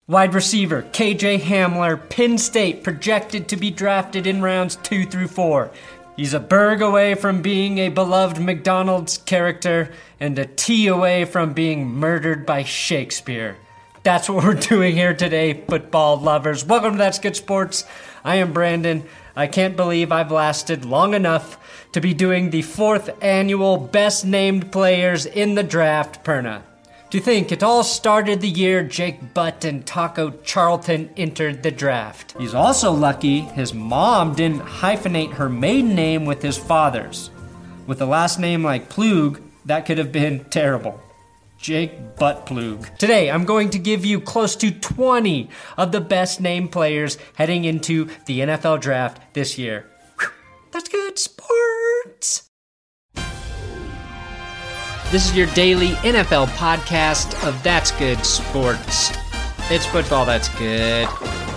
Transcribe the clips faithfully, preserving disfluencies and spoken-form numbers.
Wide receiver, K J Hamler, Penn State, projected to be drafted in rounds two through four. He's a Berg away from being a beloved McDonald's character and a T away from being murdered by Shakespeare. That's what we're doing here today, football lovers. Welcome to That's Good Sports. I am Brandon. I can't believe I've lasted long enough to be doing the fourth annual Best Named Players in the Draft Perna. To think it all started the year Jake Butt and Taco Charlton entered the draft. He's also lucky his mom didn't hyphenate her maiden name with his father's. With a last name like Plug, that could have been terrible. Jake Butt Plug. Today, I'm going to give you close to twenty of the best named players heading into the N F L draft this year. Whew, that's good sports. This is your daily N F L podcast of That's Good Sports. It's football that's good.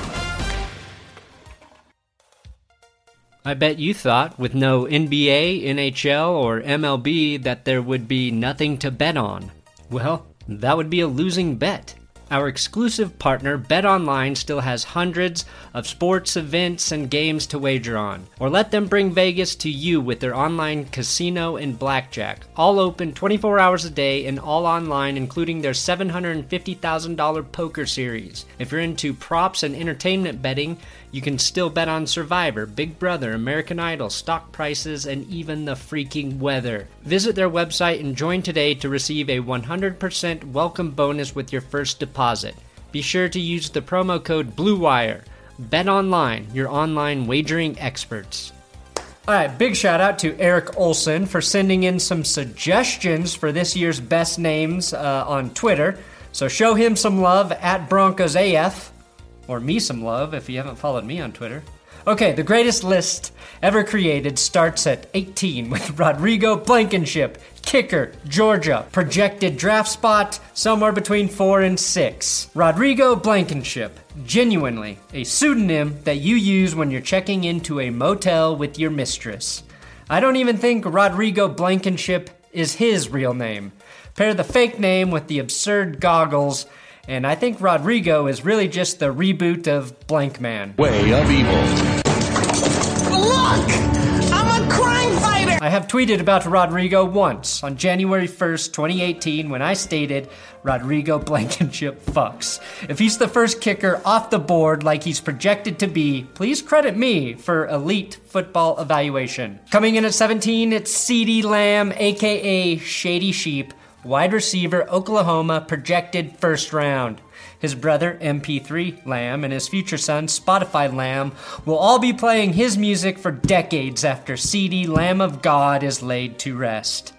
I bet you thought, with no N B A, N H L, or M L B, that there would be nothing to bet on. Well, that would be a losing bet. Our exclusive partner, BetOnline, still has hundreds of sports events and games to wager on. Or let them bring Vegas to you with their online casino and blackjack. All open twenty-four hours a day and all online, including their seven hundred fifty thousand dollars poker series. If you're into props and entertainment betting, you can still bet on Survivor, Big Brother, American Idol, stock prices, and even the freaking weather. Visit their website and join today to receive a one hundred percent welcome bonus with your first deposit. Be sure to use the promo code BLUEWIRE. BetOnline, your online wagering experts. All right, big shout out to Eric Olson for sending in some suggestions for this year's best names uh, on Twitter. So show him some love at Broncos A F. Or me some love if you haven't followed me on Twitter. Okay, the greatest list ever created starts at eighteen with Rodrigo Blankenship, kicker, Georgia, projected draft spot somewhere between four and six. Rodrigo Blankenship, genuinely a pseudonym that you use when you're checking into a motel with your mistress. I don't even think Rodrigo Blankenship is his real name. Pair the fake name with the absurd goggles, and I think Rodrigo is really just the reboot of Blank Man. Way of evil. Look! I'm a crime fighter! I have tweeted about Rodrigo once on January first, twenty eighteen, when I stated, Rodrigo Blankenship fucks. If he's the first kicker off the board like he's projected to be, please credit me for elite football evaluation. Coming in at seventeen, it's CeeDee Lamb, aka Shady Sheep, wide receiver, Oklahoma, projected first round. His brother, M P three Lamb, and his future son, Spotify Lamb, will all be playing his music for decades after CeeDee Lamb of God is laid to rest.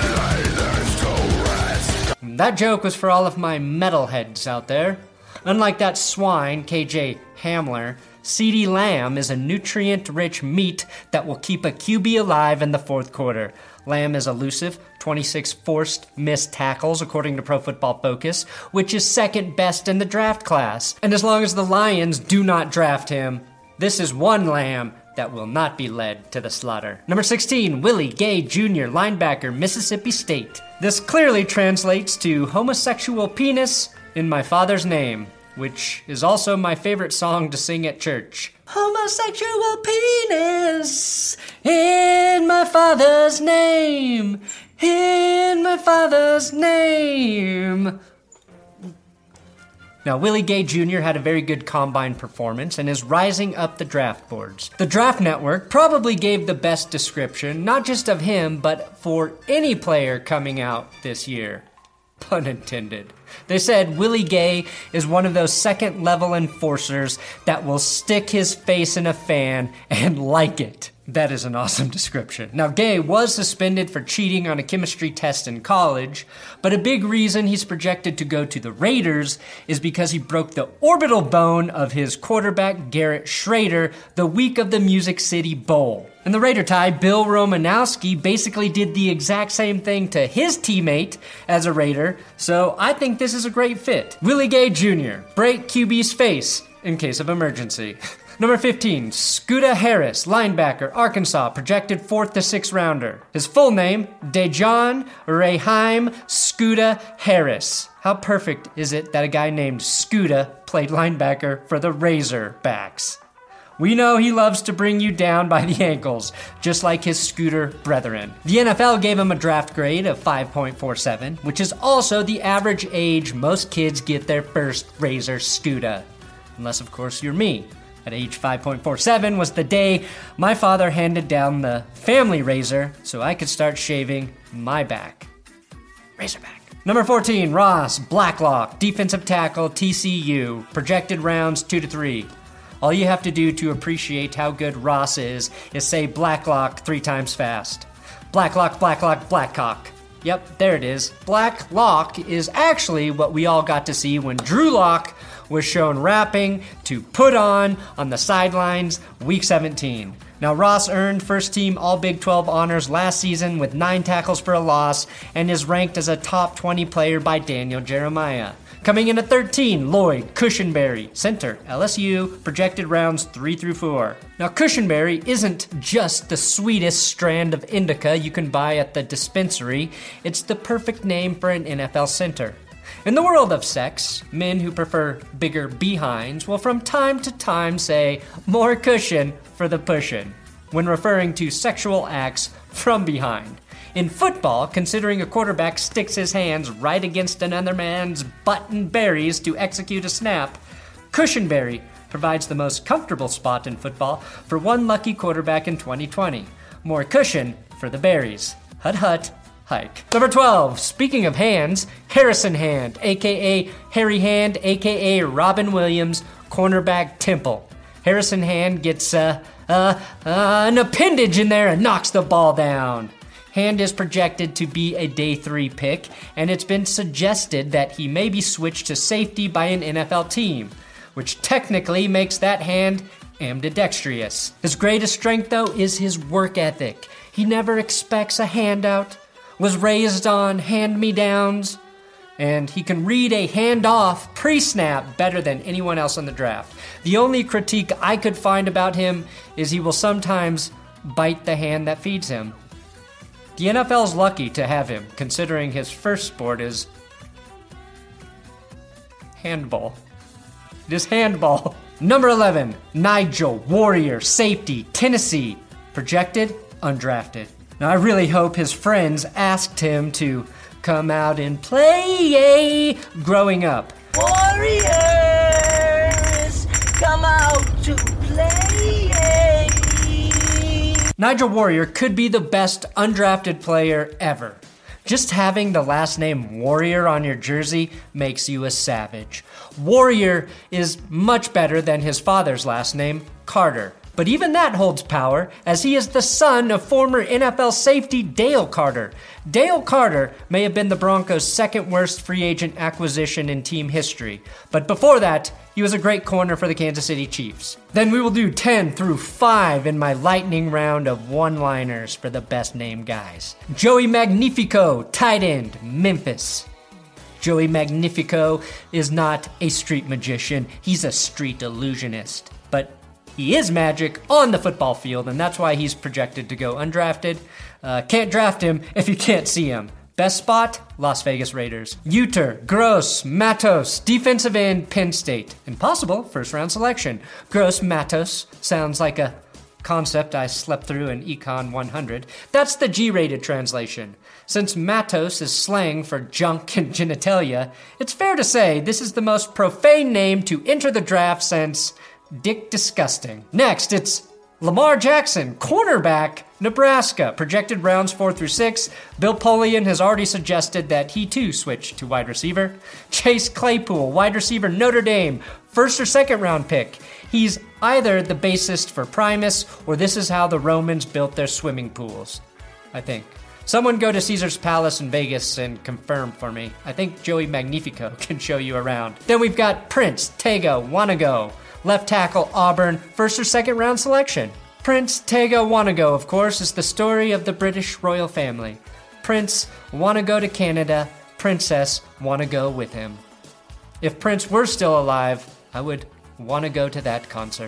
That joke was for all of my metalheads out there. Unlike that swine, K J Hamler, CeeDee Lamb is a nutrient-rich meat that will keep a Q B alive in the fourth quarter. Lamb is elusive, twenty-six forced missed tackles according to Pro Football Focus, which is second best in the draft class. And as long as the Lions do not draft him, this is one Lamb that will not be led to the slaughter. Number sixteen, Willie Gay Junior, linebacker, Mississippi State. This clearly translates to homosexual penis in my father's name, which is also my favorite song to sing at church. Homosexual penis in my father's name, in my father's name. Now, Willie Gay Junior had a very good combine performance and is rising up the draft boards. The Draft Network probably gave the best description, not just of him, but for any player coming out this year. Pun intended. They said Willie Gay is one of those second-level enforcers that will stick his face in a fan and like it. That is an awesome description. Now, Gay was suspended for cheating on a chemistry test in college, but a big reason he's projected to go to the Raiders is because he broke the orbital bone of his quarterback, Garrett Schrader, the week of the Music City Bowl. And the Raider tie, Bill Romanowski, basically did the exact same thing to his teammate as a Raider, so I think this is a great fit. Willie Gay Junior, break Q B's face in case of emergency. Number fifteen, Scooter Harris, linebacker, Arkansas, projected fourth to sixth rounder. His full name, Dejon Raheim Scooter Harris. How perfect is it that a guy named Scooter played linebacker for the Razorbacks? We know he loves to bring you down by the ankles, just like his Scooter brethren. The N F L gave him a draft grade of five point four seven, which is also the average age most kids get their first Razor Scooter. Unless, of course, you're me. At age five point four seven was the day my father handed down the family razor so I could start shaving my back. Razorback. Number fourteen, Ross Blacklock, defensive tackle, T C U, projected rounds two to three. All you have to do to appreciate how good Ross is is say Blacklock three times fast. Blacklock, Blacklock, Blackcock. Yep, there it is. Blacklock is actually what we all got to see when Drew Lock was shown rapping to Put On on the sidelines week seventeen. Now, Ross earned first team All Big twelve honors last season with nine tackles for a loss and is ranked as a top twenty player by Daniel Jeremiah. Coming in at thirteen, Lloyd Cushenberry, center, L S U, projected rounds three through four. Now, Cushenberry isn't just the sweetest strand of indica you can buy at the dispensary. It's the perfect name for an N F L center. In the world of sex, men who prefer bigger behinds will from time to time say, more cushion for the pushin', when referring to sexual acts from behind. In football, considering a quarterback sticks his hands right against another man's butt and berries to execute a snap, Cushenberry provides the most comfortable spot in football for one lucky quarterback in twenty twenty. More cushion for the berries. Hut hut, hike. Number twelve, speaking of hands, Harrison Hand, aka Harry Hand, aka Robin Williams, cornerback Temple. Harrison Hand gets uh, uh, uh, an appendage in there and knocks the ball down. Hand is projected to be a day three pick, and it's been suggested that he may be switched to safety by an N F L team, which technically makes that Hand ambidextrous. His greatest strength, though, is his work ethic. He never expects a handout, was raised on hand-me-downs, and he can read a handoff pre-snap better than anyone else in the draft. The only critique I could find about him is he will sometimes bite the hand that feeds him. The N F L's lucky to have him, considering his first sport is handball. It is handball. Number eleven, Nigel Warrior, safety, Tennessee, projected, undrafted. Now, I really hope his friends asked him to come out and play growing up. Warriors, come out to play. Nigel Warrior could be the best undrafted player ever. Just having the last name Warrior on your jersey makes you a savage. Warrior is much better than his father's last name, Carter. But even that holds power, as he is the son of former N F L safety Dale Carter. Dale Carter may have been the Broncos' second worst free agent acquisition in team history, but before that, he was a great corner for the Kansas City Chiefs. Then we will do ten through five in my lightning round of one-liners for the best named guys. Joey Magnifico, tight end, Memphis. Joey Magnifico is not a street magician, he's a street illusionist. But he is magic on the football field, and that's why he's projected to go undrafted. Uh, can't draft him if you can't see him. Best spot, Las Vegas Raiders. Uter, Gross, Matos, defensive end, Penn State. Impossible first-round selection. Gross Matos sounds like a concept I slept through in Econ one hundred. That's the G-rated translation. Since Matos is slang for junk and genitalia, it's fair to say this is the most profane name to enter the draft since Dick Disgusting. Next, it's Lamar Jackson, cornerback, Nebraska, projected rounds four through six. Bill Polian has already suggested that he too switch to wide receiver. Chase Claypool, wide receiver, Notre Dame, first or second round pick. He's either the bassist for Primus, or this is how the Romans built their swimming pools, I think. Someone go to Caesar's Palace in Vegas and confirm for me. I think Joey Magnifico can show you around. Then we've got Prince Tega Wannego, left tackle, Auburn, first or second round selection. Prince Tega Wannego, of course, is the story of the British royal family. Prince wanna go to Canada, Princess wanna go with him. If Prince were still alive, I would wanna go to that concert.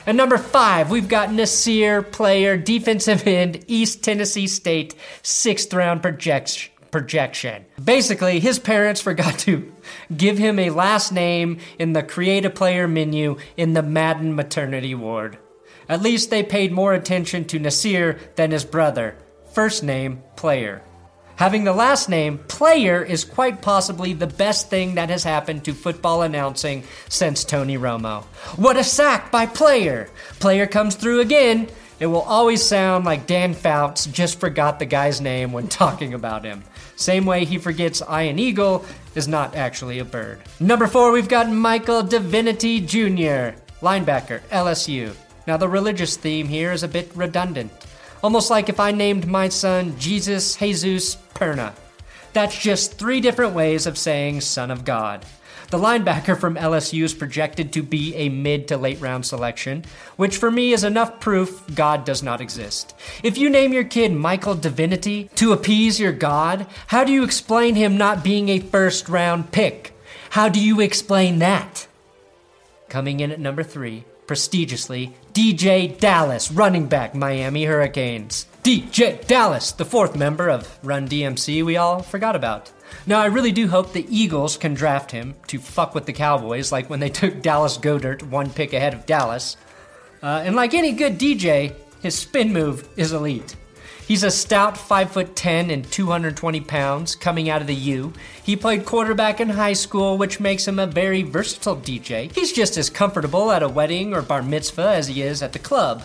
At number five, we've got Nasir Player, defensive end, East Tennessee State, sixth round project- projection. Basically, his parents forgot to give him a last name in the Create a Player menu in the Madden maternity ward. At least they paid more attention to Nasir than his brother. First name, Player. Having the last name, Player, is quite possibly the best thing that has happened to football announcing since Tony Romo. What a sack by Player! Player comes through again. It will always sound like Dan Fouts just forgot the guy's name when talking about him. Same way he forgets Ian Eagle is not actually a bird. Number four, we've got Michael Divinity Junior, linebacker, L S U. Now the religious theme here is a bit redundant. Almost like if I named my son Jesus Jesus Perna. That's just three different ways of saying son of God. The linebacker from L S U is projected to be a mid to late round selection, which for me is enough proof God does not exist. If you name your kid Michael Divinity to appease your God, how do you explain him not being a first round pick? How do you explain that? Coming in at number three, prestigiously, D J Dallas, running back, Miami Hurricanes. D J Dallas, the fourth member of Run D M C we all forgot about. Now, I really do hope the Eagles can draft him to fuck with the Cowboys, like when they took Dallas Goedert one pick ahead of Dallas. Uh, and like any good D J, his spin move is elite. He's a stout five foot ten and two hundred twenty pounds coming out of the U. He played quarterback in high school, which makes him a very versatile D J. He's just as comfortable at a wedding or bar mitzvah as he is at the club.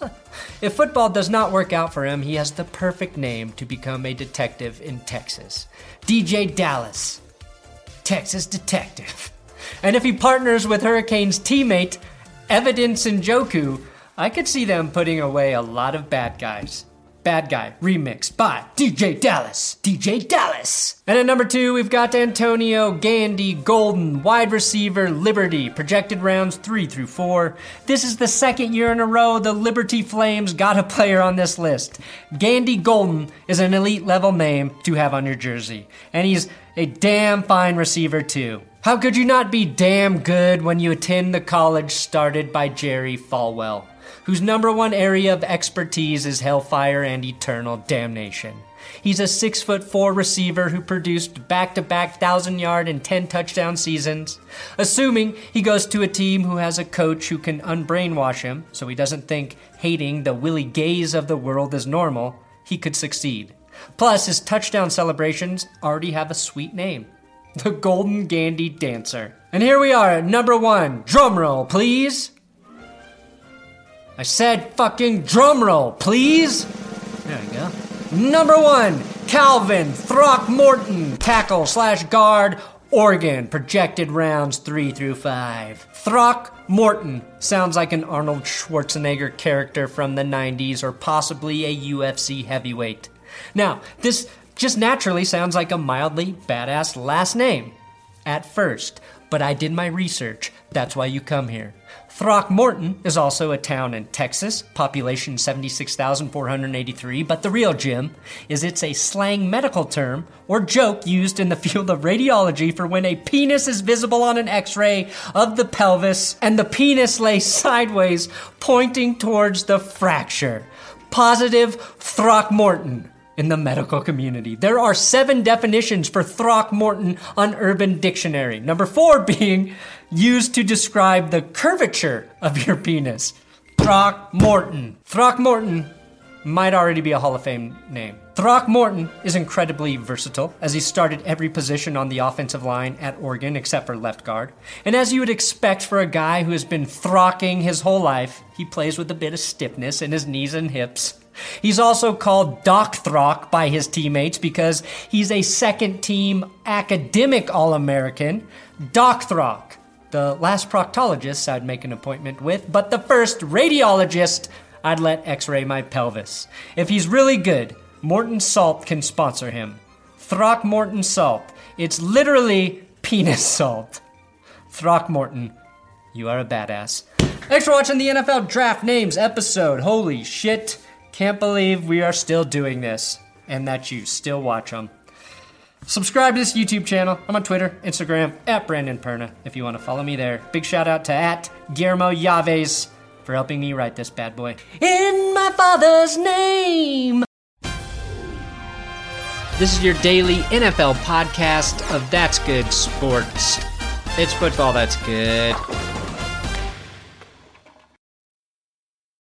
If football does not work out for him, he has the perfect name to become a detective in Texas. D J Dallas, Texas detective. And if he partners with Hurricanes teammate Evidence Njoku, I could see them putting away a lot of bad guys. Bad Guy, remixed by D J Dallas. D J Dallas. And at number two, we've got Antonio Gandy Golden, wide receiver, Liberty, projected rounds three through four. This is the second year in a row the Liberty Flames got a player on this list. Gandy Golden is an elite level name to have on your jersey. And he's a damn fine receiver too. How could you not be damn good when you attend the college started by Jerry Falwell, whose number one area of expertise is hellfire and eternal damnation? He's a six foot four receiver who produced back-to-back thousand-yard and ten-touchdown seasons. Assuming he goes to a team who has a coach who can unbrainwash him so he doesn't think hating the Willie Gays of the world is normal, he could succeed. Plus, his touchdown celebrations already have a sweet name. The Golden Gandy Dancer. And here we are at number one. Drumroll, please. I said fucking drumroll, please. There we go. Number one, Calvin Throckmorton, tackle slash guard, Oregon, projected rounds three through five. Throckmorton sounds like an Arnold Schwarzenegger character from the nineties or possibly a U F C heavyweight. Now, this just naturally sounds like a mildly badass last name at first, but I did my research. That's why you come here. Throckmorton is also a town in Texas, population seventy-six thousand four hundred eighty-three, but the real gem is it's a slang medical term or joke used in the field of radiology for when a penis is visible on an x-ray of the pelvis and the penis lays sideways pointing towards the fracture. Positive Throckmorton in the medical community. There are seven definitions for Throckmorton on Urban Dictionary. Number four being used to describe the curvature of your penis. Throckmorton. Throckmorton might already be a Hall of Fame name. Throckmorton is incredibly versatile, as he started every position on the offensive line at Oregon except for left guard. And as you would expect for a guy who has been throcking his whole life, he plays with a bit of stiffness in his knees and hips. He's also called Doc Throck by his teammates because he's a second-team academic All-American. Doc Throck, the last proctologist I'd make an appointment with, but the first radiologist I'd let x-ray my pelvis. If he's really good, Morton Salt can sponsor him. Throckmorton Salt. It's literally penis salt. Throckmorton, you are a badass. Thanks for watching the N F L Draft Names episode. Holy shit. Can't believe we are still doing this and that you still watch them. Subscribe to this YouTube channel. I'm on Twitter, Instagram, at Brandon Perna, if you want to follow me there. Big shout out to at Guillermo Yaves. for helping me write this bad boy. In my Father's name! This is your daily N F L podcast of That's Good Sports. It's football that's good.